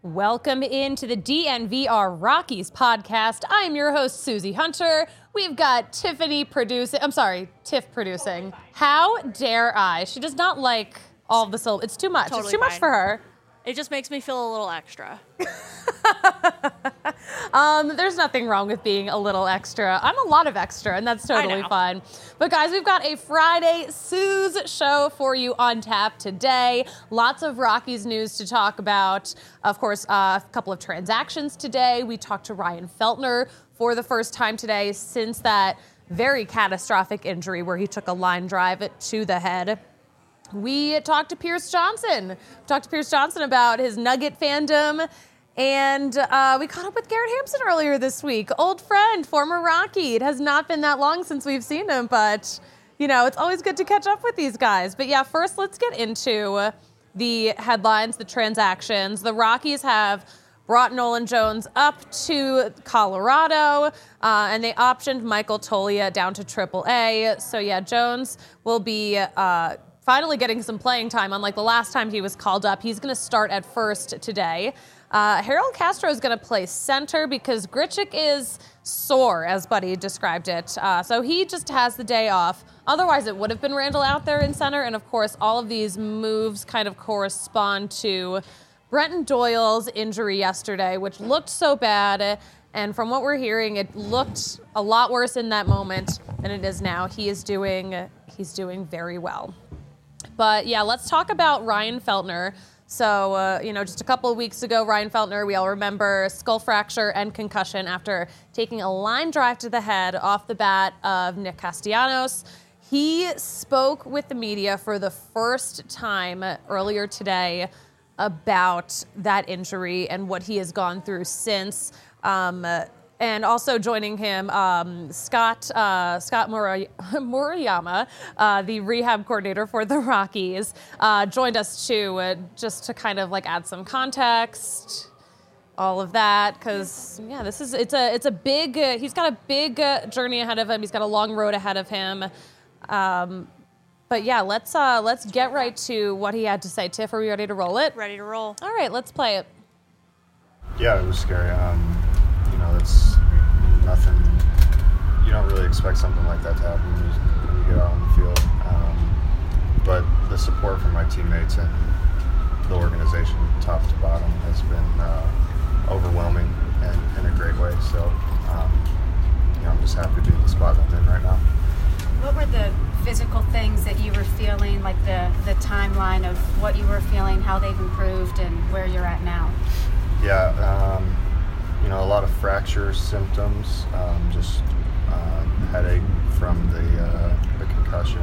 Welcome into the DNVR Rockies podcast. I'm your host, Susie Hunter. We've got Tiff producing. How dare I? She does not like all of the syllables. It's too much. Totally it's too much for her. It just makes me feel a little extra. There's nothing wrong with being a little extra. I'm a lot of extra, and that's totally fine. But guys, we've got a Friday Suze show for you on tap today. Lots of Rockies news to talk about. Of course, a couple of transactions today. We talked to Ryan Feltner for the first time today since that very catastrophic injury where he took a line drive to the head. We talked to Pierce Johnson. About his Nugget fandom. And we caught up with Garrett Hampson earlier this week. Old friend, former Rocky. It has not been that long since we've seen him, but, you know, it's always good to catch up with these guys. But, yeah, first let's get into the headlines, the transactions. The Rockies have brought Nolan Jones up to Colorado, and they optioned Michael Toglia down to AAA. So, yeah, Jones will be finally getting some playing time. Unlike the last time he was called up, he's going to start at first today. Harold Castro is going to play center because Grichuk is sore, as Buddy described it. So he just has the day off. Otherwise, it would have been Randall out there in center. And, of course, all of these moves kind of correspond to Brenton Doyle's injury yesterday, which looked so bad. And from what we're hearing, it looked a lot worse in that moment than it is now. He's doing very well. But, yeah, let's talk about Ryan Feltner. So, just a couple of weeks ago, Ryan Feltner, we all remember skull fracture and concussion after taking a line drive to the head off the bat of Nick Castellanos. He spoke with the media for the first time earlier today about that injury and what he has gone through since. And also joining him, Scott Murayama, the rehab coordinator for the Rockies, joined us too, just to kind of like add some context, all of that, because it's a big. He's got a big journey ahead of him. He's got a long road ahead of him. But yeah, let's get right to what he had to say. Tiff, are we ready to roll it? Ready to roll. All right, let's play it. Yeah, it was scary. It's nothing. You don't really expect something like that to happen when you get out on the field. But the support from my teammates and the organization, top to bottom, has been overwhelming and in a great way. So, I'm just happy to be in the spot I'm in right now. What were the physical things that you were feeling, like the timeline of what you were feeling, how they've improved, and where you're at now? Yeah, a lot of fracture symptoms, just headache from the concussion,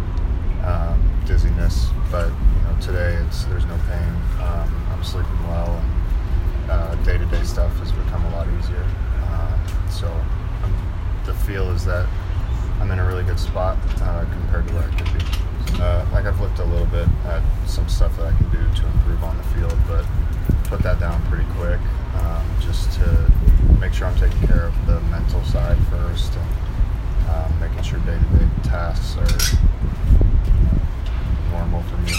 dizziness. But today there's no pain. I'm sleeping well, and day-to-day stuff has become a lot easier. So the feel is that I'm in a really good spot compared to where I could be. I've looked a little bit at some stuff that I can do to improve on the field, but put that down pretty quick, just to make sure I'm taking care of the mental side first, and making sure day-to-day tasks are normal for me.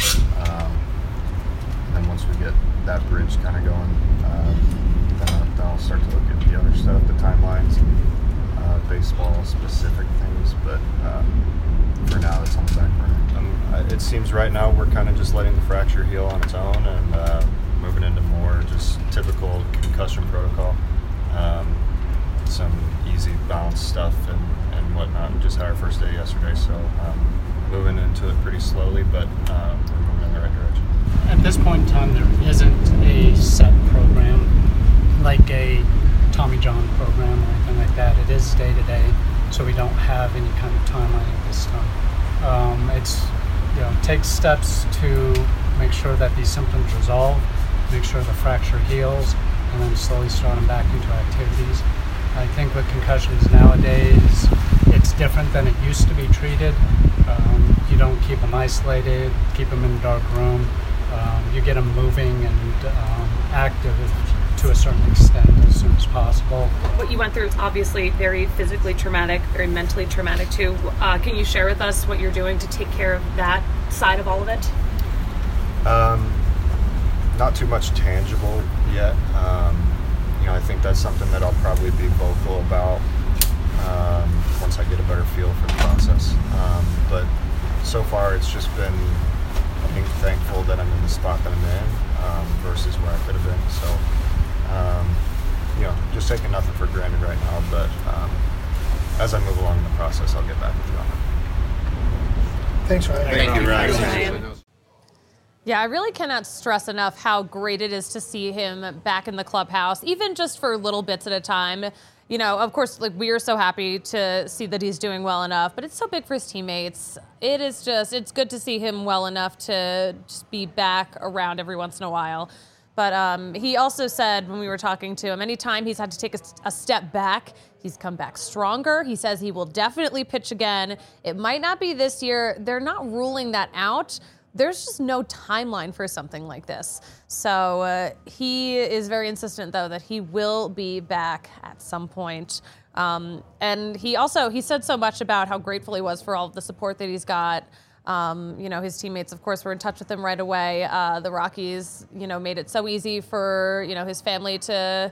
And then once we get that bridge kind of going, then I'll start to look at the other stuff, the timelines, baseball-specific things. But for now, it's on the back burner. It seems right now we're kind of just letting the fracture heal on its own, and moving into more just typical concussion protocol. Some easy bounce stuff and whatnot. We just had our first day yesterday, so moving into it pretty slowly, but we're moving in the right direction. At this point in time, there isn't a set program like a Tommy John program or anything like that. It is day to day, so we don't have any kind of timeline at this time. Take steps to make sure that these symptoms resolve, make sure the fracture heals, and then slowly start them back into activities. I think with concussions nowadays, it's different than it used to be treated. You don't keep them isolated, keep them in a dark room. You get them moving and active to a certain extent as soon as possible. What you went through is obviously very physically traumatic, very mentally traumatic too. Can you share with us what you're doing to take care of that side of all of it? Not too much tangible yet. I think that's something that I'll probably be vocal about once I get a better feel for the process. But so far, it's just been being thankful that I'm in the spot that I'm in versus where I could have been. So, just taking nothing for granted right now. But as I move along in the process, I'll get back with you on it. Thanks, Ryan. Thank you, Ryan. Ryan. Yeah, I really cannot stress enough how great it is to see him back in the clubhouse, even just for little bits at a time. Of course, we are so happy to see that he's doing well enough, but it's so big for his teammates. It's good to see him well enough to just be back around every once in a while. But he also said when we were talking to him, anytime he's had to take a step back, he's come back stronger. He says he will definitely pitch again. It might not be this year. They're not ruling that out. There's just no timeline for something like this. So he is very insistent, though, that he will be back at some point. And he said so much about how grateful he was for all of the support that he's got. His teammates, of course, were in touch with him right away. The Rockies, made it so easy for, his family to,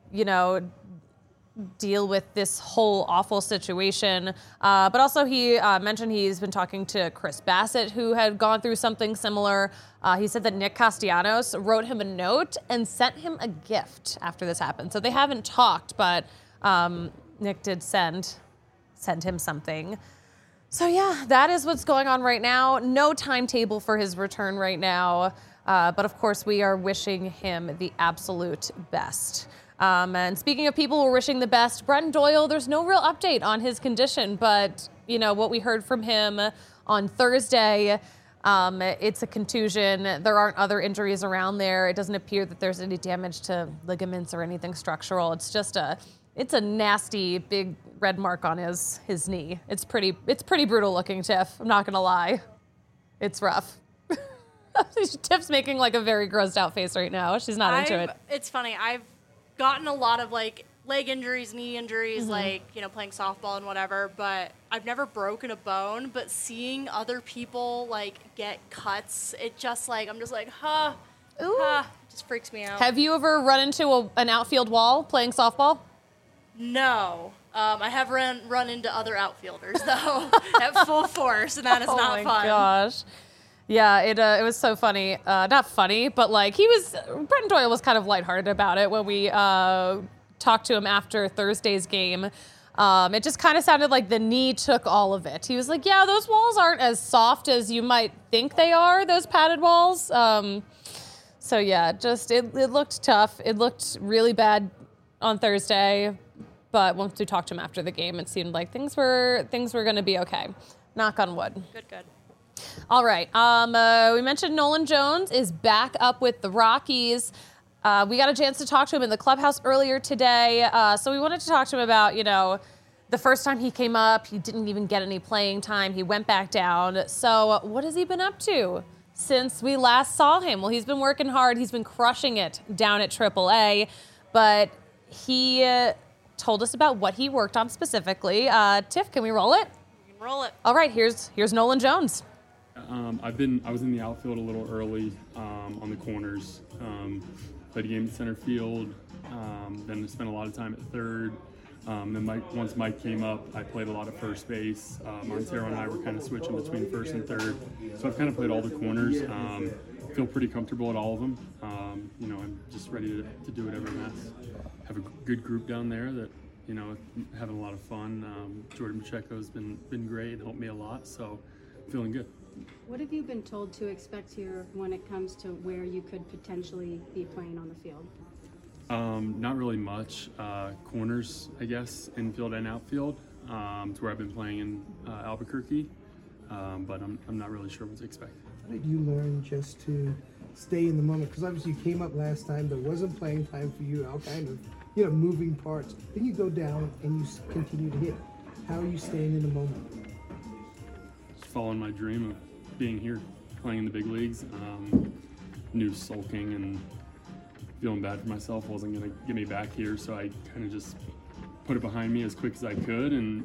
deal with this whole awful situation. But also he mentioned he's been talking to Chris Bassett, who had gone through something similar. He said that Nick Castellanos wrote him a note and sent him a gift after this happened. So they haven't talked, but Nick did send him something. So yeah, that is what's going on right now. No timetable for his return right now. But of course, we are wishing him the absolute best. And speaking of people who are wishing the best, Brenton Doyle, there's no real update on his condition, but what we heard from him on Thursday, it's a contusion. There aren't other injuries around there. It doesn't appear that there's any damage to ligaments or anything structural. It's just it's a nasty big red mark on his knee. It's pretty brutal looking, Tiff. I'm not gonna lie. It's rough. Tiff's making a very grossed out face right now. She's not into it. It's funny. I've gotten a lot of leg injuries, knee injuries, playing softball and whatever, but I've never broken a bone. But seeing other people get cuts, it just I'm just it just freaks me out. Have you ever run into an outfield wall playing softball? No. I have run into other outfielders though at full force, and that is not fun. Oh my gosh. Yeah, it was so funny. Not funny, but Brenton Doyle was kind of lighthearted about it when we talked to him after Thursday's game. It just kind of sounded like the knee took all of it. He was like, yeah, those walls aren't as soft as you might think they are, those padded walls. So yeah, it looked tough. It looked really bad on Thursday, but once we talked to him after the game, it seemed like things were going to be okay. Knock on wood. Good. All right. We mentioned Nolan Jones is back up with the Rockies. We got a chance to talk to him in the clubhouse earlier today. So we wanted to talk to him about, the first time he came up, he didn't even get any playing time. He went back down. So what has he been up to since we last saw him? Well, he's been working hard. He's been crushing it down at AAA. But he told us about what he worked on specifically. Tiff, can we roll it? We can roll it. All right, here's Nolan Jones. I was in the outfield a little early on the corners. Played a game in center field. Then I spent a lot of time at third. Then once Mike came up, I played a lot of first base. Montero and I were kind of switching between first and third. So I've kind of played all the corners. Feel pretty comfortable at all of them. I'm just ready to do whatever I'm asked. Have a good group down there that, having a lot of fun. Jordan Pacheco's been great and helped me a lot. So feeling good. What have you been told to expect here when it comes to where you could potentially be playing on the field? Not really much. Corners, I guess, infield and outfield. It's where I've been playing in Albuquerque, but I'm not really sure what to expect. How did you learn just to stay in the moment? Because obviously you came up last time, there wasn't playing time for you, all kind of, moving parts. Then you go down and you continue to hit. How are you staying in the moment? Just following my dream of being here, playing in the big leagues. Knew sulking and feeling bad for myself wasn't going to get me back here, so I kind of just put it behind me as quick as I could and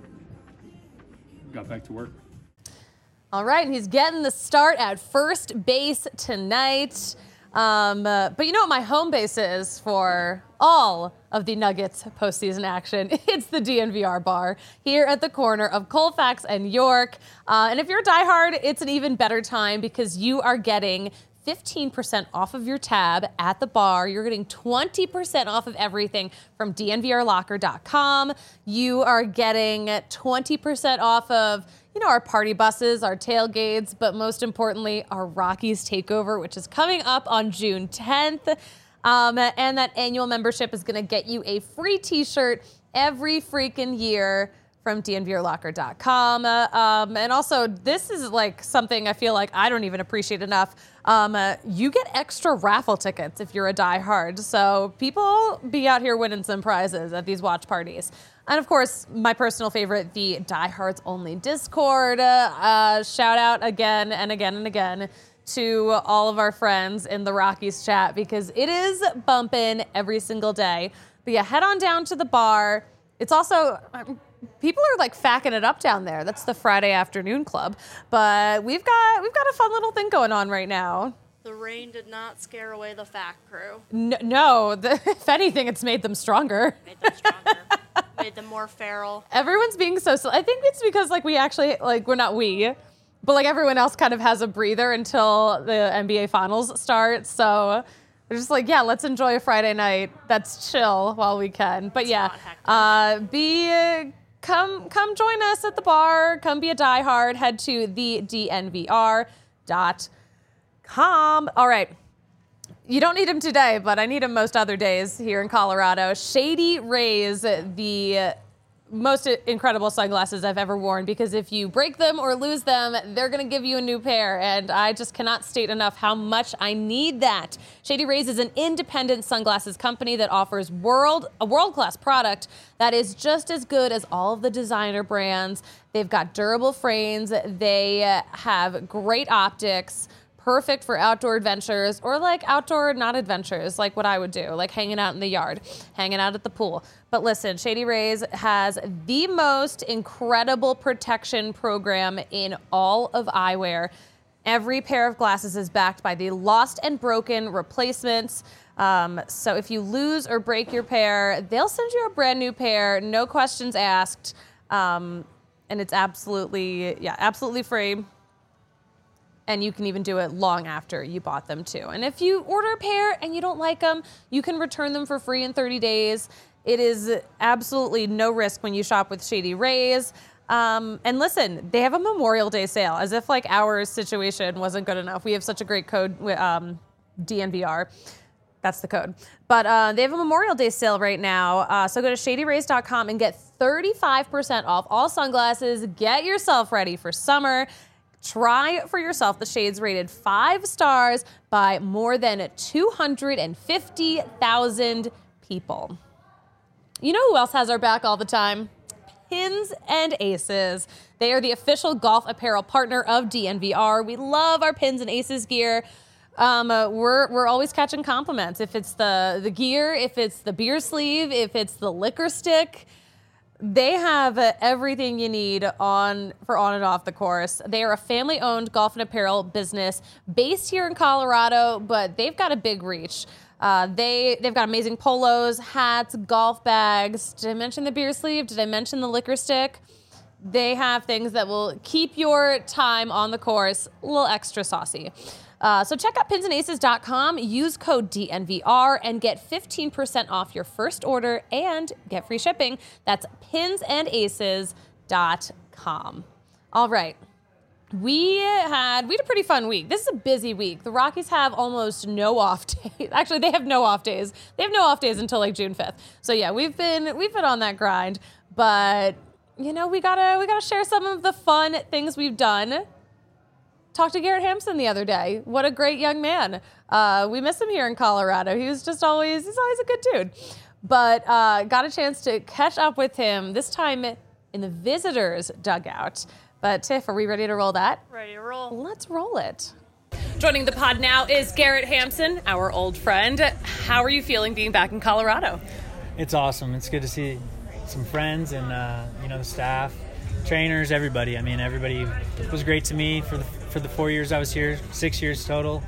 got back to work. All right, and he's getting the start at first base tonight. But you know what my home base is for all of the Nuggets postseason action? It's the DNVR bar here at the corner of Colfax and York. And if you're a diehard, it's an even better time because you are getting 15% off of your tab at the bar. You're getting 20% off of everything from DNVRlocker.com. You are getting 20% off of, our party buses, our tailgates, but most importantly, our Rockies takeover, which is coming up on June 10th. And that annual membership is going to get you a free t-shirt every freaking year from DNVRlocker.com. And also, this is like something I feel like I don't even appreciate enough. You get extra raffle tickets if you're a diehard. So people be out here winning some prizes at these watch parties. And of course, my personal favorite, the Diehards Only Discord. Shout out again and again and again to all of our friends in the Rockies chat because it is bumping every single day. But yeah, head on down to the bar. It's also, people are like facking it up down there. That's the Friday afternoon club. But we've got a fun little thing going on right now. The rain did not scare away the FAC crew. No, if anything, it's made them stronger. Made them stronger. Made them more feral. Everyone's being so I think it's because but everyone else kind of has a breather until the NBA Finals start. So they're just like, yeah, let's enjoy a Friday night. That's chill while we can. But come join us at the bar. Come be a diehard. Head to thednvr.com. All right. You don't need them today, but I need them most other days here in Colorado. Shady Rays, the most incredible sunglasses I've ever worn, because if you break them or lose them, they're going to give you a new pair, and I just cannot state enough how much I need that. Shady Rays is an independent sunglasses company that offers a world-class product that is just as good as all of the designer brands. They've got durable frames. They have great optics, perfect for outdoor adventures or outdoor not adventures, like what I would do, like hanging out in the yard, hanging out at the pool. But listen, Shady Rays has the most incredible protection program in all of eyewear. Every pair of glasses is backed by the lost and broken replacements. So if you lose or break your pair, they'll send you a brand new pair, no questions asked. And it's absolutely free. And you can even do it long after you bought them too. And if you order a pair and you don't like them, you can return them for free in 30 days. It is absolutely no risk when you shop with Shady Rays. And listen, they have a Memorial Day sale, as if our situation wasn't good enough. We have such a great code, DNVR. That's the code. But they have a Memorial Day sale right now. So go to shadyrays.com and get 35% off all sunglasses. Get yourself ready for summer. Try for yourself the shades rated 5 stars by more than 250,000 people. You know who else has our back all the time? Pins and Aces. They are the official golf apparel partner of DNVR. We love our Pins and Aces gear. We're always catching compliments. If it's the gear, if it's the beer sleeve, if it's the liquor stick, they have everything you need for on and off the course. They are a family-owned golf and apparel business based here in Colorado, but they've got a big reach. They've got amazing polos, hats, golf bags. Did I mention the beer sleeve? Did I mention the liquor stick? They have things that will keep your time on the course a little extra saucy. So check out pinsandaces.com, use code DNVR, and get 15% off your first order and get free shipping. That's pinsandaces.com. All right. We had a pretty fun week. This is a busy week. The Rockies have almost no off days. Actually, they have no off days. They have no off days until June 5th. So yeah, we've been on that grind, but we gotta share some of the fun things we've done. Talked to Garrett Hampson the other day. What a great young man. We miss him here in Colorado. He's always a good dude. But got a chance to catch up with him, this time in the visitors' dugout. But Tiff, are we ready to roll that? Ready to roll. Let's roll it. Joining the pod now is Garrett Hampson, our old friend. How are you feeling being back in Colorado? It's awesome. It's good to see some friends and the staff, trainers, everybody. I mean, everybody was great to me for the 4 years I was here, 6 years total.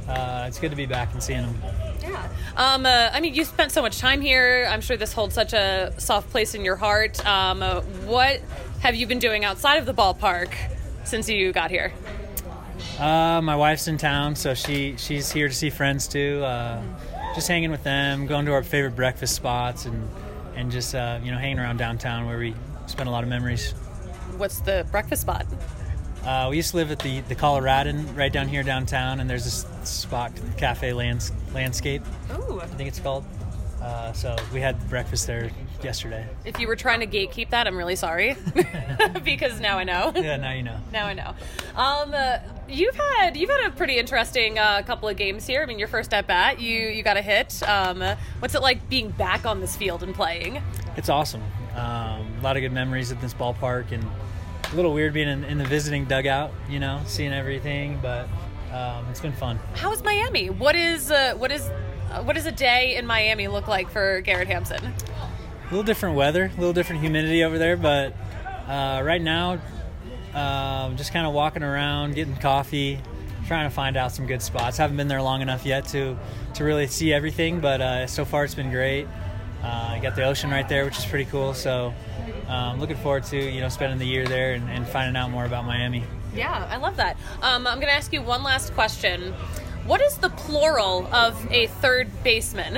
it's good to be back and seeing them. Yeah. I mean, you spent so much time here. I'm sure this holds such a soft place in your heart. What have you been doing outside of the ballpark since you got here? My wife's in town, so she's here to see friends too. Just hanging with them, going to our favorite breakfast spots, and just hanging around downtown where we spend a lot of memories. What's the breakfast spot? We used to live at the Coloradan right down here downtown, and there's this spot, Cafe Landscape. Ooh. I think it's called. So we had breakfast there yesterday. If you were trying to gatekeep that, I'm really sorry. Because now I know. Yeah, now you know. Now I know. You've had a pretty interesting couple of games here. I mean, your first at bat, you got a hit. What's it like being back on this field and playing? It's awesome. A lot of good memories at this ballpark, and a little weird being in the visiting dugout, seeing everything, but it's been fun. How is Miami? What does a day in Miami look like for Garrett Hampson? A little different weather, a little different humidity over there, but right now, just kind of walking around, getting coffee, trying to find out some good spots. Haven't been there long enough yet to really see everything, but so far it's been great. You got the ocean right there, which is pretty cool, so looking forward to spending the year there and finding out more about Miami. Yeah, I love that. I'm going to ask you one last question. What is the plural of a third baseman?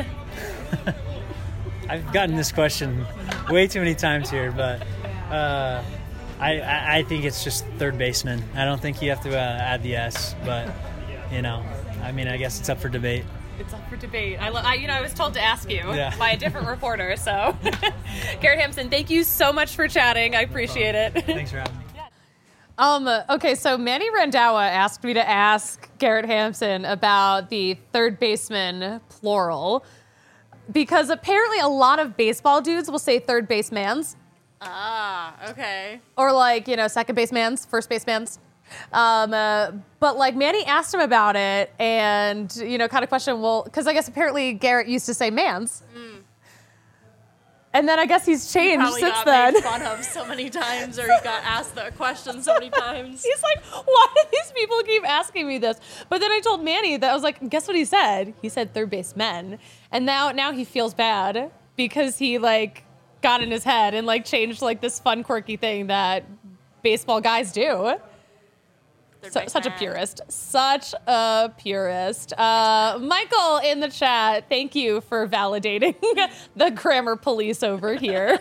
I've gotten this question way too many times here, but I think it's just third baseman. I don't think you have to add the S, but I guess it's up for debate. It's up for debate. I was told to ask you by a different reporter. So, Garrett Hampson, thank you so much for chatting. I appreciate it. Thanks for having me. Okay, so Manny Randhawa asked me to ask Garrett Hampson about the third baseman plural, because apparently a lot of baseball dudes will say third basemans. Ah, okay. Or second basemans, first basemans. But Manny asked him about it and, kind of questioned, well, because I guess apparently Garrett used to say mans. And then I guess he's changed since then. He got made fun of so many times, or he got asked that question so many times. He's like, why do these people keep asking me this? But then I told Manny that I was like, guess what he said? He said third baseman. And now he feels bad because he got in his head and changed this fun, quirky thing that baseball guys do. Such a purist. Such a purist. Michael in the chat, thank you for validating the grammar police over here.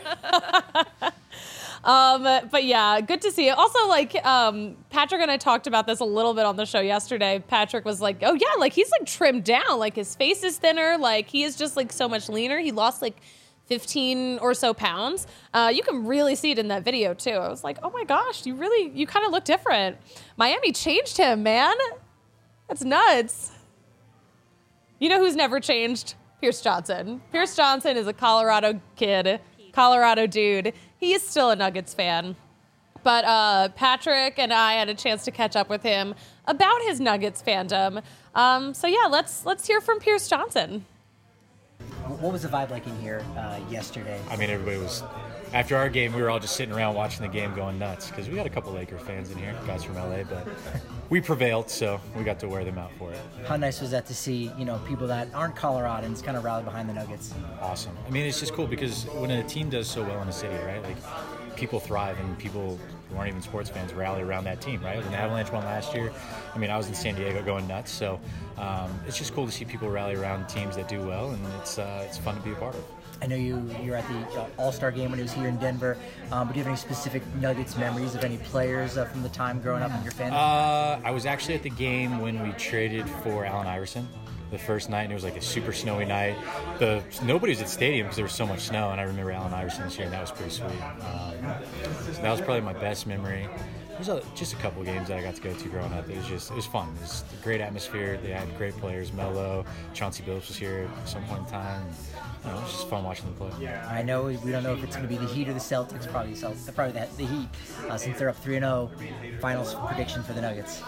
But yeah, good to see it. Also, Patrick and I talked about this a little bit on the show yesterday. Patrick was like, oh yeah, he's trimmed down. His face is thinner. He is just so much leaner. He lost 15 or so pounds. You can really see it in that video too. I was like, oh my gosh, you kind of look different. Miami changed him, man. That's nuts. You know who's never changed? Pierce Johnson. Pierce Johnson is a Colorado kid, Colorado dude. He is still a Nuggets fan. But Patrick and I had a chance to catch up with him about his Nuggets fandom. So yeah, let's hear from Pierce Johnson. What was the vibe like in here yesterday? I mean, everybody was, after our game, we were all just sitting around watching the game going nuts, because we got a couple Laker fans in here, guys from LA, but we prevailed, so we got to wear them out for it. How nice was that to see, people that aren't Coloradans kind of rally behind the Nuggets? Awesome. I mean, it's just cool because when a team does so well in a city, right, people thrive, and people who aren't even sports fans rally around that team, right? When the Avalanche won last year, I mean, I was in San Diego going nuts, so it's just cool to see people rally around teams that do well, and it's fun to be a part of. I know you were at the All-Star game when it was here in Denver, but do you have any specific Nuggets memories of any players from the time growing up in your fandom? I was actually at the game when we traded for Allen Iverson the first night, and it was a super snowy night. Nobody was at the stadium because there was so much snow, and I remember Allen Iverson was here, and that was pretty sweet. So that was probably my best memory. There's just a couple of games that I got to go to growing up. It was fun. It was a great atmosphere. They had great players. Melo, Chauncey Billups was here at some point in time. It was just fun watching them play. I know we don't know if it's going to be the Heat or the Celtics. Probably the Heat, since they're up 3-0. Finals prediction for the Nuggets.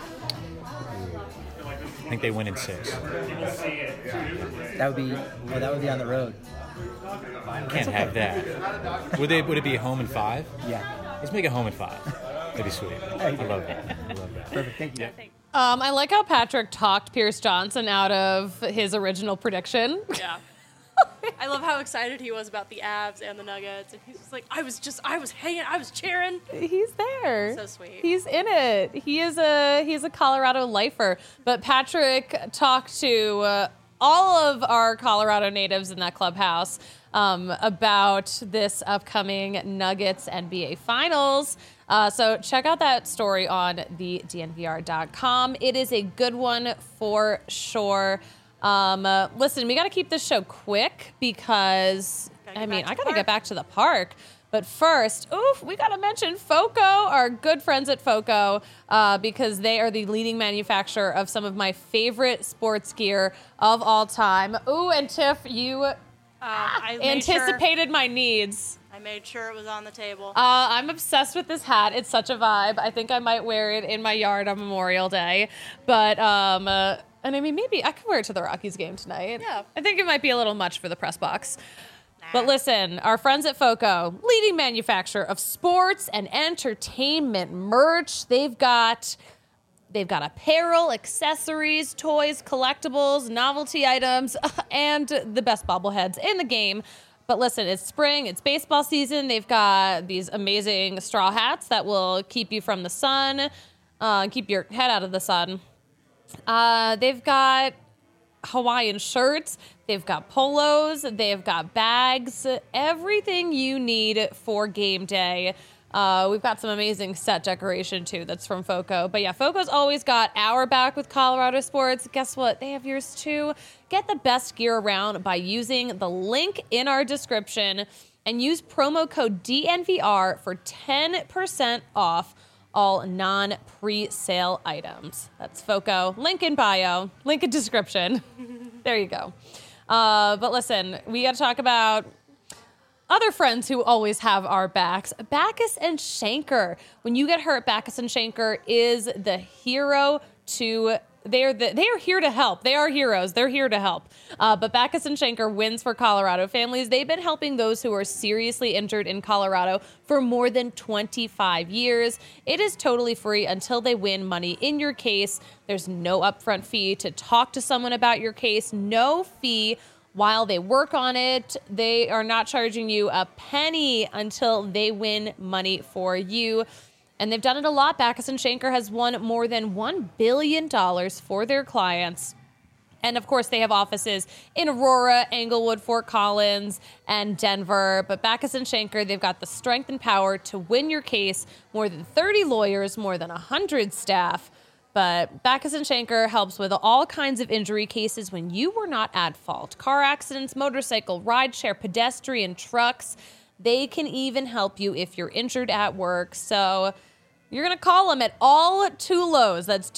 I think they win in 6. That would be on the road. Can't have that. Would it be a home in 5? Yeah. Let's make it home in 5. That'd be sweet. I love that. Perfect. Thank you. Yeah. I like how Patrick talked Pierce Johnson out of his original prediction. Yeah. I love how excited he was about the Avs and the Nuggets, and he's just like, I was hanging, I was cheering. He's there. So sweet. He's in it. He's a Colorado lifer. But Patrick talked to all of our Colorado natives in that clubhouse about this upcoming Nuggets NBA Finals. So check out that story on the DNVR.com. It is a good one for sure. Listen, we got to keep this show quick because, I got to get back to the park. But first, we got to mention FOCO, our good friends at FOCO, because they are the leading manufacturer of some of my favorite sports gear of all time. And Tiff, you anticipated my needs. I made sure it was on the table. I'm obsessed with this hat. It's such a vibe. I think I might wear it in my yard on Memorial Day. But, and I mean, maybe I could wear it to the Rockies game tonight. Yeah. I think it might be a little much for the press box. But listen, our friends at FOCO, leading manufacturer of sports and entertainment merch. They've got apparel, accessories, toys, collectibles, novelty items, and the best bobbleheads in the game. But listen, it's spring, it's baseball season. They've got these amazing straw hats that will keep you from the sun, keep your head out of the sun. They've got Hawaiian shirts, they've got polos, they've got bags, everything you need for game day. We've got some amazing set decoration too that's from FOCO. But yeah, FOCO's always got our back with Colorado sports. Guess what? They have yours too. Get the best gear around by using the link in our description and use promo code DNVR for 10% off all non-pre-sale items. That's FOCO. Link in bio. Link in description. There you go. But listen, we got to talk about other friends who always have our backs. Backus and Schenker. When you get hurt, Backus and Schenker is the hero to... They are here to help. They are heroes. They're here to help. But Backus and Schenker wins for Colorado families. They've been helping those who are seriously injured in Colorado for more than 25 years. It is totally free until they win money in your case. There's no upfront fee to talk to someone about your case. No fee while they work on it. They are not charging you a penny until they win money for you. And they've done it a lot. Backus and Schenker has won more than $1 billion for their clients. And of course, they have offices in Aurora, Englewood, Fort Collins, and Denver. But Backus and Schenker, they've got the strength and power to win your case. More than 30 lawyers, more than 100 staff. But Backus and Schenker helps with all kinds of injury cases when you were not at fault. Car accidents, motorcycle, rideshare, pedestrian, trucks. They can even help you if you're injured at work. So you're going to call them at all two lows. That's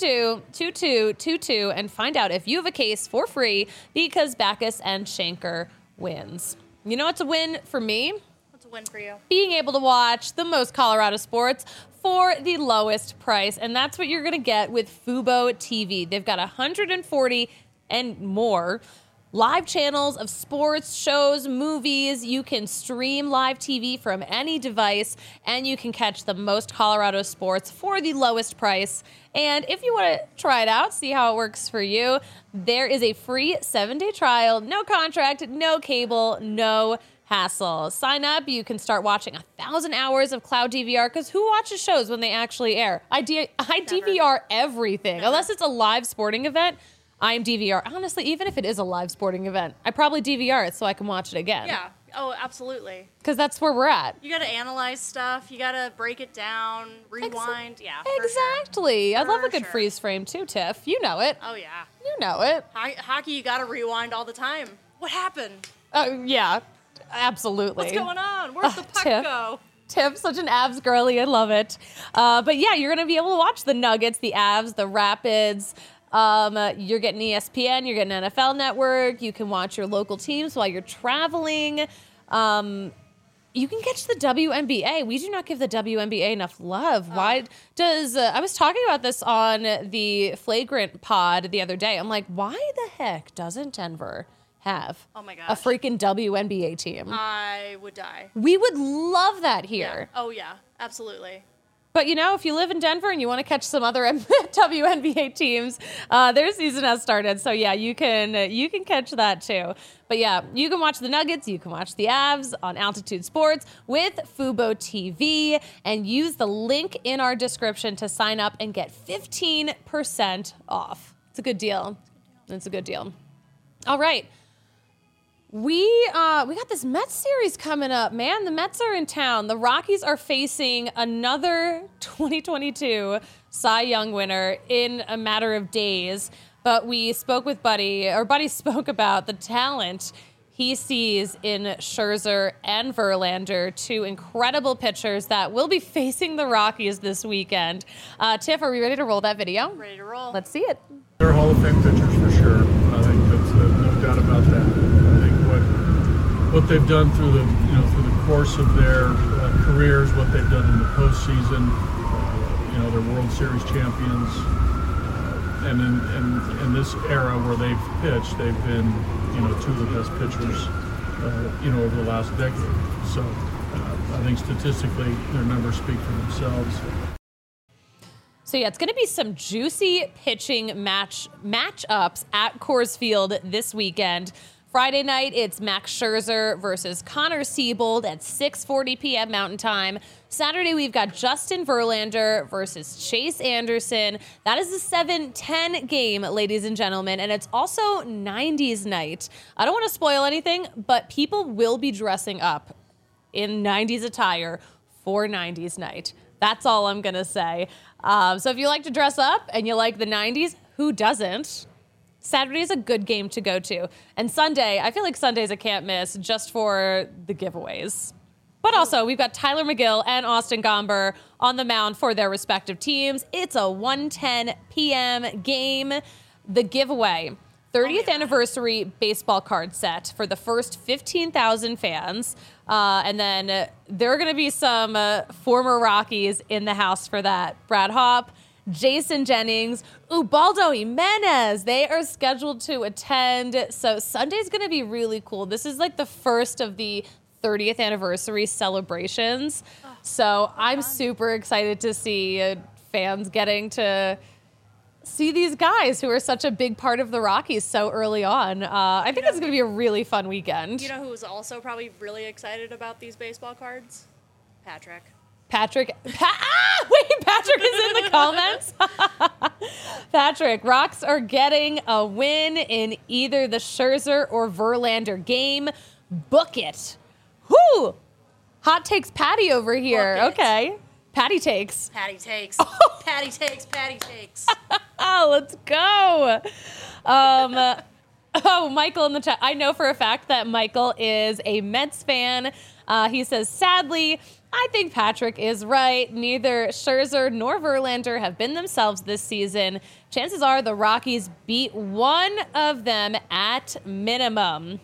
222-2222 and find out if you have a case for free because Backus and Schenker wins. You know what's a win for me? What's a win for you? Being able to watch the most Colorado sports for the lowest price. And that's what you're going to get with Fubo TV. They've got 140 and more live channels of sports, shows, movies. You can stream live TV from any device, and you can catch the most Colorado sports for the lowest price. And if you want to try it out, see how it works for you, there is a free 7-day trial, no contract, no cable, no hassle. Sign up. You can start watching 1,000 hours of cloud DVR, because who watches shows when they actually air? I DVR everything. Never. Unless it's a live sporting event. I'm DVR. Honestly, even if it is a live sporting event, I probably DVR it so I can watch it again. Yeah. Oh, absolutely. Because that's where we're at. You got to analyze stuff. You got to break it down, rewind. Yeah. Exactly. Sure. I love a good freeze frame too, Tiff. You know it. Oh, yeah. You know it. Hockey, you got to rewind all the time. What happened? Oh, yeah. Absolutely. What's going on? Where'd the puck go? Tiff, such an Avs girly. I love it. But yeah, you're going to be able to watch the Nuggets, the Avs, the Rapids. You're getting ESPN, you're getting NFL Network. You can watch your local teams while you're traveling. You can catch the WNBA. We do not give the WNBA enough love. Why does... I was talking about this on the Flagrant pod the other day. I'm like, why the heck doesn't Denver have a freaking WNBA team? I would die. We would love that here. Yeah. Oh, yeah. Absolutely. But, if you live in Denver and you want to catch some other WNBA teams, their season has started. So, yeah, you can catch that too. But, yeah, you can watch the Nuggets. You can watch the Avs on Altitude Sports with Fubo TV. And use the link in our description to sign up and get 15% off. It's a good deal. It's a good deal. All right. We got this Mets series coming up, man. The Mets are in town. The Rockies are facing another 2022 Cy Young winner in a matter of days. But we spoke with Buddy, or Buddy spoke about the talent he sees in Scherzer and Verlander, two incredible pitchers that will be facing the Rockies this weekend. Tiff, are we ready to roll that video? Ready to roll. Let's see it. They're Hall of Fame pitchers for sure. I think that's no doubt about that. What they've done through the course of their careers, what they've done in the postseason, they're World Series champions, and in this era where they've pitched, they've been two of the best pitchers over the last decade. So I think statistically their numbers speak for themselves. So yeah, it's going to be some juicy pitching matchups at Coors Field this weekend. Friday night, it's Max Scherzer versus Connor Siebold at 6:40 p.m. Mountain Time. Saturday, we've got Justin Verlander versus Chase Anderson. That is a 7:10 game, ladies and gentlemen, and it's also 90s night. I don't want to spoil anything, but people will be dressing up in 90s attire for 90s night. That's all I'm going to say. So if you like to dress up and you like the 90s, who doesn't? Saturday is a good game to go to. And Sunday, I feel like Sunday's a can't miss just for the giveaways. But also, we've got Tyler McGill and Austin Gomber on the mound for their respective teams. It's a 1:10 p.m. game. The giveaway, 30th anniversary baseball card set for the first 15,000 fans. And then there are going to be some former Rockies in the house for that. Brad Hopp, Jason Jennings, Ubaldo Jimenez. They are scheduled to attend. So Sunday's going to be really cool. This is like the first of the 30th anniversary celebrations. So I'm super excited to see fans getting to see these guys who are such a big part of the Rockies so early on. I think it's going to be a really fun weekend. You know who's also probably really excited about these baseball cards? Patrick. Patrick is in the comments. Patrick, Rocks are getting a win in either the Scherzer or Verlander game. Book it. Whoo! Hot takes Patty over here. Okay. Patty takes. Patty takes. Patty takes. Patty takes. Oh, let's go. Michael in the chat. I know for a fact that Michael is a Mets fan. He says, sadly, I think Patrick is right. Neither Scherzer nor Verlander have been themselves this season. Chances are the Rockies beat one of them at minimum.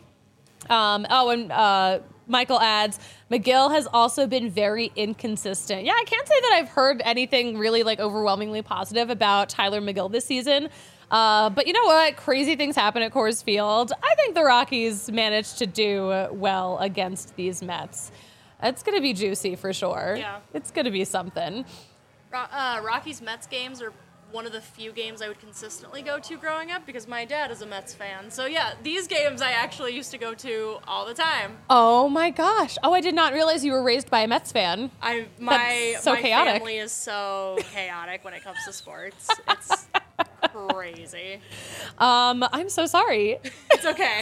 Michael adds, McGill has also been very inconsistent. Yeah, I can't say that I've heard anything really overwhelmingly positive about Tyler McGill this season. But you know what? Crazy things happen at Coors Field. I think the Rockies managed to do well against these Mets. It's going to be juicy for sure. Yeah. It's going to be something. Rockies Mets games are one of the few games I would consistently go to growing up because my dad is a Mets fan. So yeah, these games I actually used to go to all the time. Oh my gosh. Oh, I did not realize you were raised by a Mets fan. My chaotic. Family is so chaotic when it comes to sports. It's crazy. I'm so sorry. It's okay.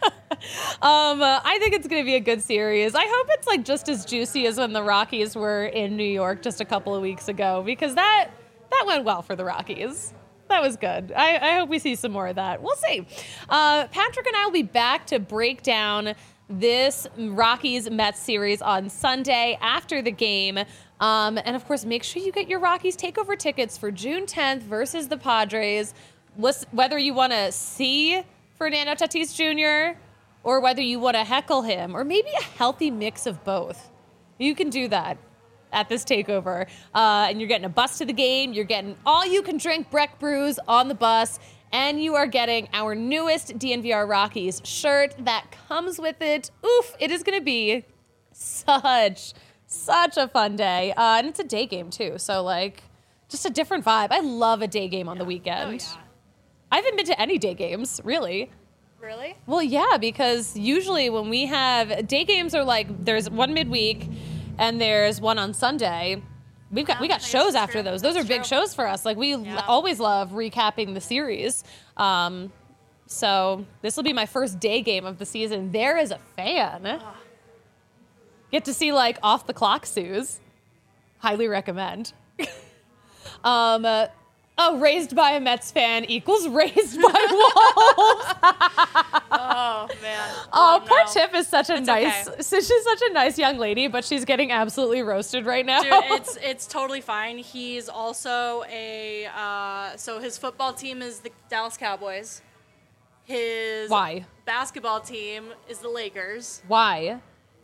I think it's going to be a good series. I hope it's just as juicy as when the Rockies were in New York just a couple of weeks ago, because that went well for the Rockies. That was good. I hope we see some more of that. We'll see. Patrick and I will be back to break down this Rockies-Mets series on Sunday after the game. And, of course, make sure you get your Rockies takeover tickets for June 10th versus the Padres. Whether you want to see Fernando Tatis Jr. or whether you want to heckle him, or maybe a healthy mix of both. You can do that at this takeover. And you're getting a bus to the game. You're getting all-you-can-drink Breck brews on the bus. And you are getting our newest DNVR Rockies shirt that comes with it. Oof, it is going to be such Such a fun day. And it's a day game, too. So, like, just a different vibe. I love a day game on the weekend. Oh, yeah. I haven't been to any day games, really. Really? Well, yeah, because usually when we have day games are like there's one midweek and there's one on Sunday. We got shows after those. Those are big shows for us. Like we always love recapping the series. So this will be my first day game of the season. There as a fan, get to see like off the clock Suze. Highly recommend. Raised by a Mets fan equals raised by Wolves. Oh man. Oh, poor Tiff is such a she's such a nice young lady, but she's getting absolutely roasted right now. Dude, it's totally fine. He's also so his football team is the Dallas Cowboys. His basketball team is the Lakers. Why?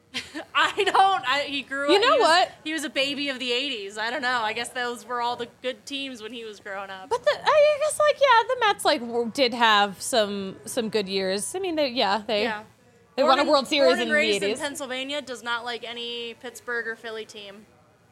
He grew up. You know what? He was a baby of the 80s. I don't know. I guess those were all the good teams when he was growing up. But I guess the Mets did have some good years. I mean, they won a World Series in the 80s. Born and raised in Pennsylvania, does not like any Pittsburgh or Philly team.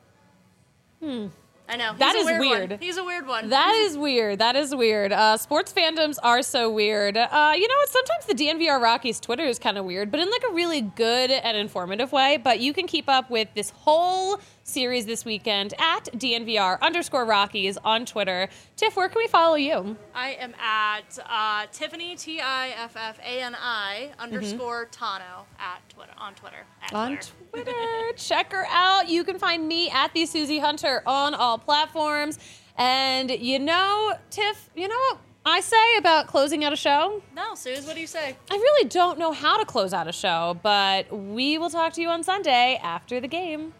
I know. That is weird. He's a weird one. That is weird. Sports fandoms are so weird. You know what? Sometimes the DNVR Rockies Twitter is kind of weird, but in like a really good and informative way. But you can keep up with this whole series this weekend at DNVR_Rockies on Twitter. Tiff, where can we follow you? I am at Tiffany, TIFFANI _Tano on Twitter. Check her out. You can find me at the Susie Hunter on all platforms. And you know, Tiff, you know what I say about closing out a show? No, Suze, what do you say? I really don't know how to close out a show, but we will talk to you on Sunday after the game.